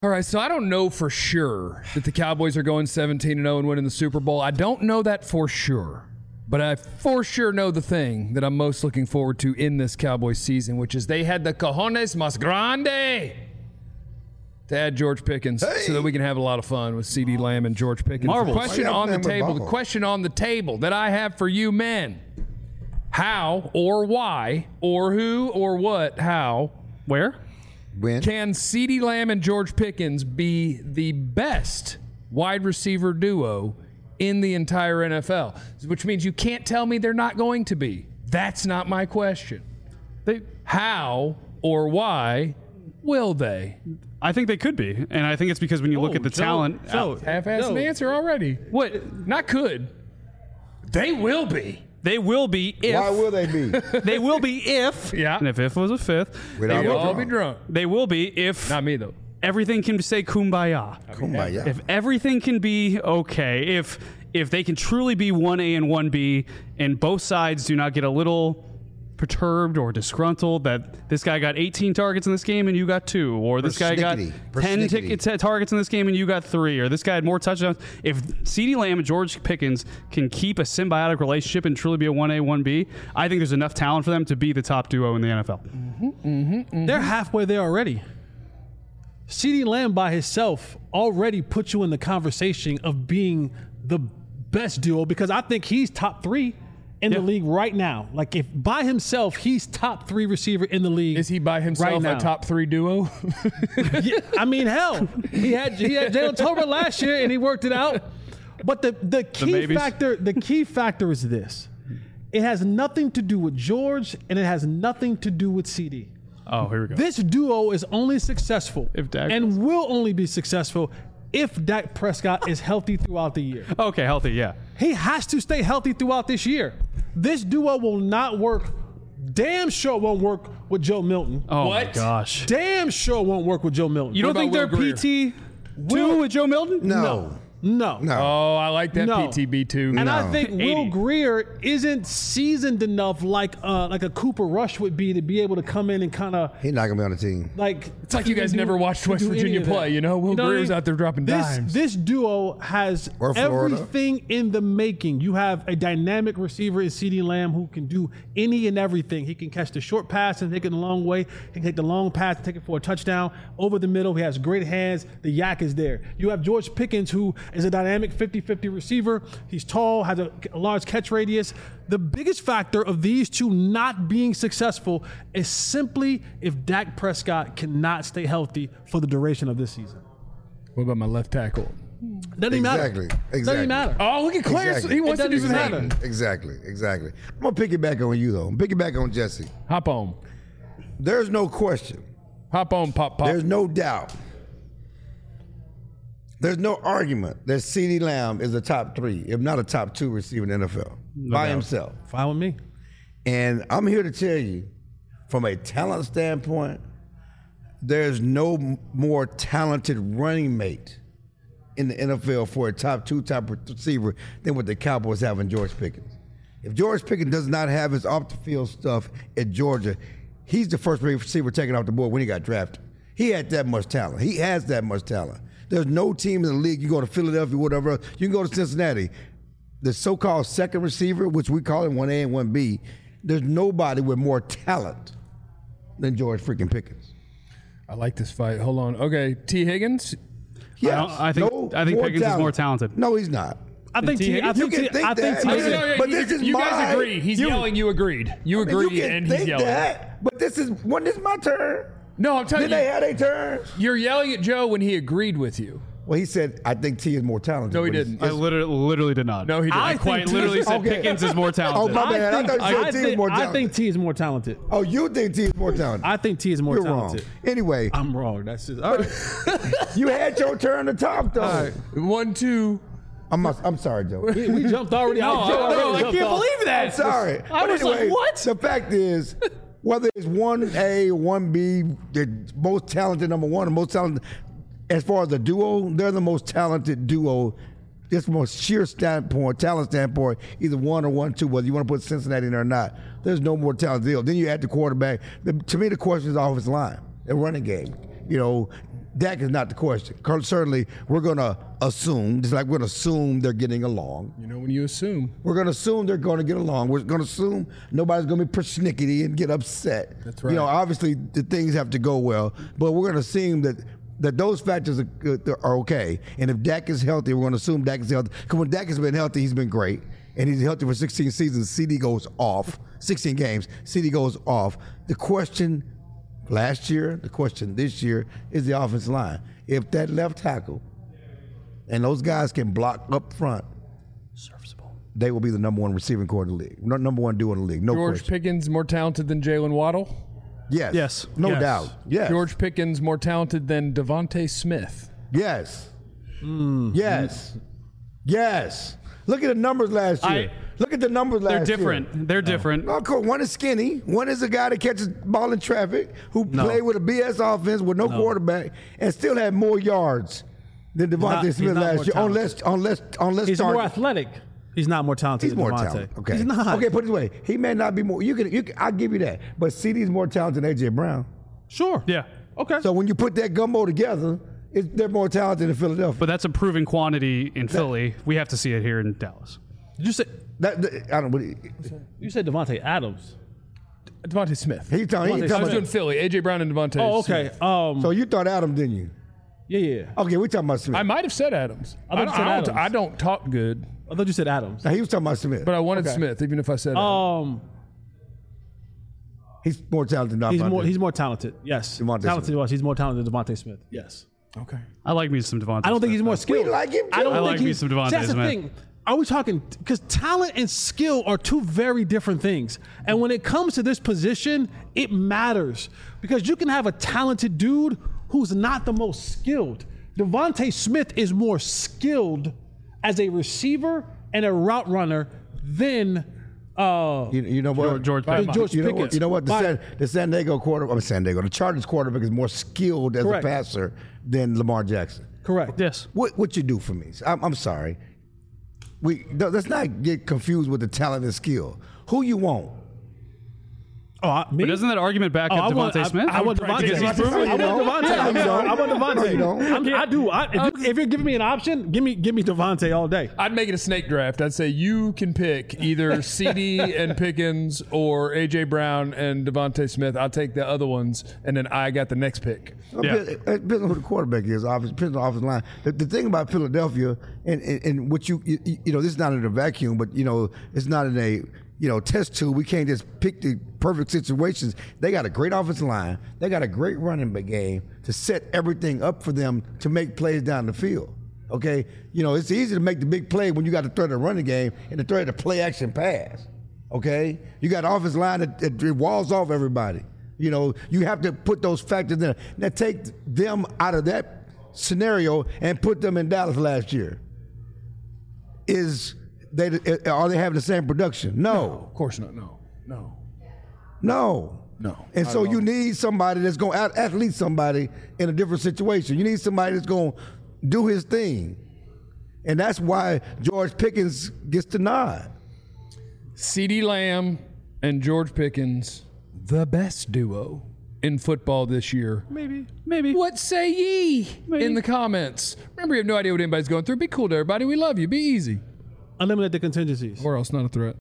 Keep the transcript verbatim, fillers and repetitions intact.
All right, so I don't know for sure that the Cowboys are going seventeen and oh and winning the Super Bowl. I don't know that for sure. But I for sure know the thing that I'm most looking forward to in this Cowboys season, which is they had the cojones más grande to add George Pickens Hey. so that we can have a lot of fun with CeeDee Lamb and George Pickens. Marvelous. The question Why you on the playing with table, the Buffalo? question on the table that I have for you men, how or why or who or what, how, Where? Win. can CeeDee Lamb and George Pickens be the best wide receiver duo in the entire N F L? Which means you can't tell me they're not going to be. That's not my question. They, How or why will they? I think they could be, and I think it's because when you look Oh, at the Joe, talent, Joe, Half-assed Joe. answer already. what Not could. They will be. they will be if Why will they be? they will be if Yeah. and if if was a fifth, Without they We'll will, all be drunk. they will be if Not me, though. everything can say kumbaya. Kumbaya. If everything can be okay, if if they can truly be one A and one B, and both sides do not get a little perturbed or disgruntled that this guy got eighteen targets in this game and you got two, or this guy got Persnickety. ten Persnickety. tickets, targets in this game and you got three, or this guy had more touchdowns. If CeeDee Lamb and George Pickens can keep a symbiotic relationship and truly be a one A, one B, I think there's enough talent for them to be the top duo in the N F L. They're halfway there already. CeeDee Lamb by himself already put you in the conversation of being the best duo, because I think he's top three in Yeah. the league right now. Like, if by himself, he's top three receiver in the league. Is he by right himself now. a top three duo? Yeah, I mean, hell, he had he had Jalen Tolbert last year and he worked it out. But the the key maybes. factor the key factor is this: it has nothing to do with George and it has nothing to do with C D. Oh, here we go. This duo is only successful If Dak- and will only be successful if Dak Prescott is healthy throughout the year. Okay, healthy, yeah. He has to stay healthy throughout this year. This duo will not work. Damn sure won't work with Joe Milton. Oh my What? gosh. Damn sure won't work with Joe Milton. You don't What think they're about Will Greer? P T two Will- with Joe Milton? No. No. No. Oh, I like that No. P T B too. And I No. think Will eighty. Greer isn't seasoned enough like uh, like a Cooper Rush would be to be able to come in and kind of He's not going to be on the team. like. It's like you guys do- never watched do West any Virginia of that. play, you know? Will what I Greer's mean? out there dropping this, dimes. This duo has Or Florida. everything in the making. You have a dynamic receiver in CeeDee Lamb who can do any and everything. He can catch the short pass and take it a long way. He can take the long pass and take it for a touchdown. Over the middle, he has great hands. The yak is there. You have George Pickens, who is a dynamic fifty-fifty receiver. He's tall, has a, a large catch radius. The biggest factor of these two not being successful is simply if Dak Prescott cannot stay healthy for the duration of this season. What about my left tackle? Doesn't even matter. Exactly. Doesn't Exactly. even matter. Oh, look at Clarence. Exactly. He wants It to do doesn't some even hating. matter. Exactly. Exactly. I'm going to pick it back on you, though. I'm pick it back on Jesse. Hop on. There's no question. Hop on, pop, pop. There's no doubt. There's no argument that CeeDee Lamb is a top three, if not a top two receiver in the N F L by doubt. himself. Fine with me. And I'm here to tell you, from a talent standpoint, there's no m- more talented running mate in the N F L for a top two, top receiver than what the Cowboys have in George Pickens. If George Pickens does not have his off the field stuff at Georgia, he's the first receiver taken off the board when he got drafted. He had that much talent. He has that much talent. There's no team in the league. You go to Philadelphia, whatever. You can go to Cincinnati. The so-called second receiver, which we call him one A and one B, there's nobody with more talent than George freaking Pickens. I like this fight. Hold on. Okay, T. Higgins. Yes, don't- I think- no I think more Pickens is more talented. No, he's not. I think T. T. I Higgins? think You T. can think I think that. T. I Oh, mean, no, no, but you, this is you guys my- agreed. He's you- yelling. You agreed. You I mean, agreed, you can and he's think yelling. that, but this is when this is my turn. No, I'm telling Did they you. have their turn? You're yelling at Joe when he agreed with you. Well, he said, I think T is more talented. No, he but it's- didn't. I literally, literally did not. No, he didn't. I I quite think literally T- said Okay. Pickens is more Oh, talented. my bad. I think, thought you said I T is think, more I talented. think T is more talented. Oh, you think T is more talented? I think T is more You're talented. wrong. Anyway, I'm wrong. That's just all right. you had your turn to talk, though. All right. One, two. I'm, I'm sorry, Joe. we, we jumped already. No, I, Joe I- already no, I jumped can't off. believe that. Sorry. I But was anyway, like, what? The fact is, whether it's one A, one B, the most talented number one, the most talented, as far as the duo, they're the most talented duo. Just from a sheer standpoint, talent standpoint, either one or one, two, whether you want to put Cincinnati in there or not, there's no more talent deal. Then you add the quarterback. The, to me, the question is offensive line, the running game. You know, Dak is not the question. Certainly, we're going to assume, just like we're going to assume they're getting along. You know, when you assume. We're going to assume they're going to get along. We're going to assume nobody's going to be persnickety and get upset. That's right. You know, obviously, the things have to go well, but we're going to assume that that those factors are, are okay. And if Dak is healthy, we're going to assume Dak is healthy. Because when Dak has been healthy, he's been great. And he's healthy for sixteen seasons. C D goes off. sixteen games. C D goes off. The question last year, the question this year is the offensive line. If that left tackle and those guys can block up front, serviceable, they will be the number one receiving core in the league. No, number one duo in the league. No George question. Pickens more talented than Jalen Waddle? Yes. Yes. No Yes. doubt. Yes. George Pickens more talented than Devontae Smith? Yes. Yes. Yes. Look at the numbers last year. I- Look at the numbers last They're year. different. They're different. No, cool. One is skinny. One is a guy that catches ball in traffic who No. played with a B S offense with no, quarterback and still had more yards than not- Devontae he's Smith not last more year. talented. Unless, unless, unless He's Stark- more athletic. He's not more talented He's than more Devontae. talented. Okay. He's not. Okay, put it this way. He may not be more. You can. You can. I'll give you that. But C D's more talented than A J Brown. Sure. Yeah. Okay. So when you put that gumbo together, it's, they're more talented than Philadelphia. But that's a proven quantity in Philly. We have to see it here in Dallas. Did you say that, that- I don't. What, you said Devontae Adams? Devontae Smith. he talking. He Devontae I talking was about, doing Philly. A J Brown and Devontae Oh, okay. Smith. Um. so you thought Adam, didn't you? yeah, yeah. Okay, we talking about Smith. I might have said Adams. I thought I, you don't, said I, don't, Adams. I don't talk good, I thought you said Adams. Now, he was talking about Smith. but I wanted Okay. Smith, even if I said Adams. Um. He's more talented than He's Devontae. more. He's more talented. Yes. Devontae talented. Smith. Was. He's more talented than Devontae Smith. Yes. Okay. I like me some Devontae. I don't think he's more skilled. We like him, I don't too. I think like me he's, some Devontae See, that's the Smith. thing. Are we talking because talent and skill are two very different things, and when it comes to this position, it matters because you can have a talented dude who's not the most skilled. Devontae Smith is more skilled as a receiver and a route runner than uh, You, you know what? George By Pickens. George You know what? Pickens. You know what? The, By- San, the San Diego quarter, I mean San Diego, the Chargers quarterback is more skilled as Correct. a passer than Lamar Jackson. Correct. Yes. What what you do for me? I'm, I'm sorry. We let's not get confused with the talent and skill. Who you want? Oh, I, me? But doesn't that argument back Oh, up I want, Devontae I, Smith? I, want Devontae. Because he's I proven. want Devontae. Yeah, I'm you sorry. don't. I want Devontae. No, you don't. I'm- I do. I, if, you, if you're giving me an option, give me give me Devontae all day. I'd make it a snake draft. I'd say you can pick either C D and Pickens or A J Brown and Devontae Smith. I'll take the other ones, and then I got the next pick. Yeah. It depends on who the quarterback is. Obviously, depends on the offensive line. The, the thing about Philadelphia, and, and, and what you, you you know, this is not in a vacuum, but you know, it's not in a you know test tube. We can't just pick the perfect situations. They got a great offensive line. They got a great running back game to set everything up for them to make plays down the field. Okay, you know, it's easy to make the big play when you got to throw the running game and to throw the play action pass. Okay, you got an offensive line that, that walls off everybody. You know, you have to put those factors in. Now take them out of that scenario and put them in Dallas last year. Is they are they having the same production? No, Of course not. No. No. no, No, And not so at all. you need somebody that's going to athlete somebody in a different situation. You need somebody that's going to do his thing, and that's why George Pickens gets the nod. CeeDee Lamb and George Pickens, the best duo in football this year. Maybe. Maybe. What say ye in the comments? Remember, you have no idea what anybody's going through. Be cool to everybody. We love you. Be easy. Eliminate the contingencies. Or else not a threat.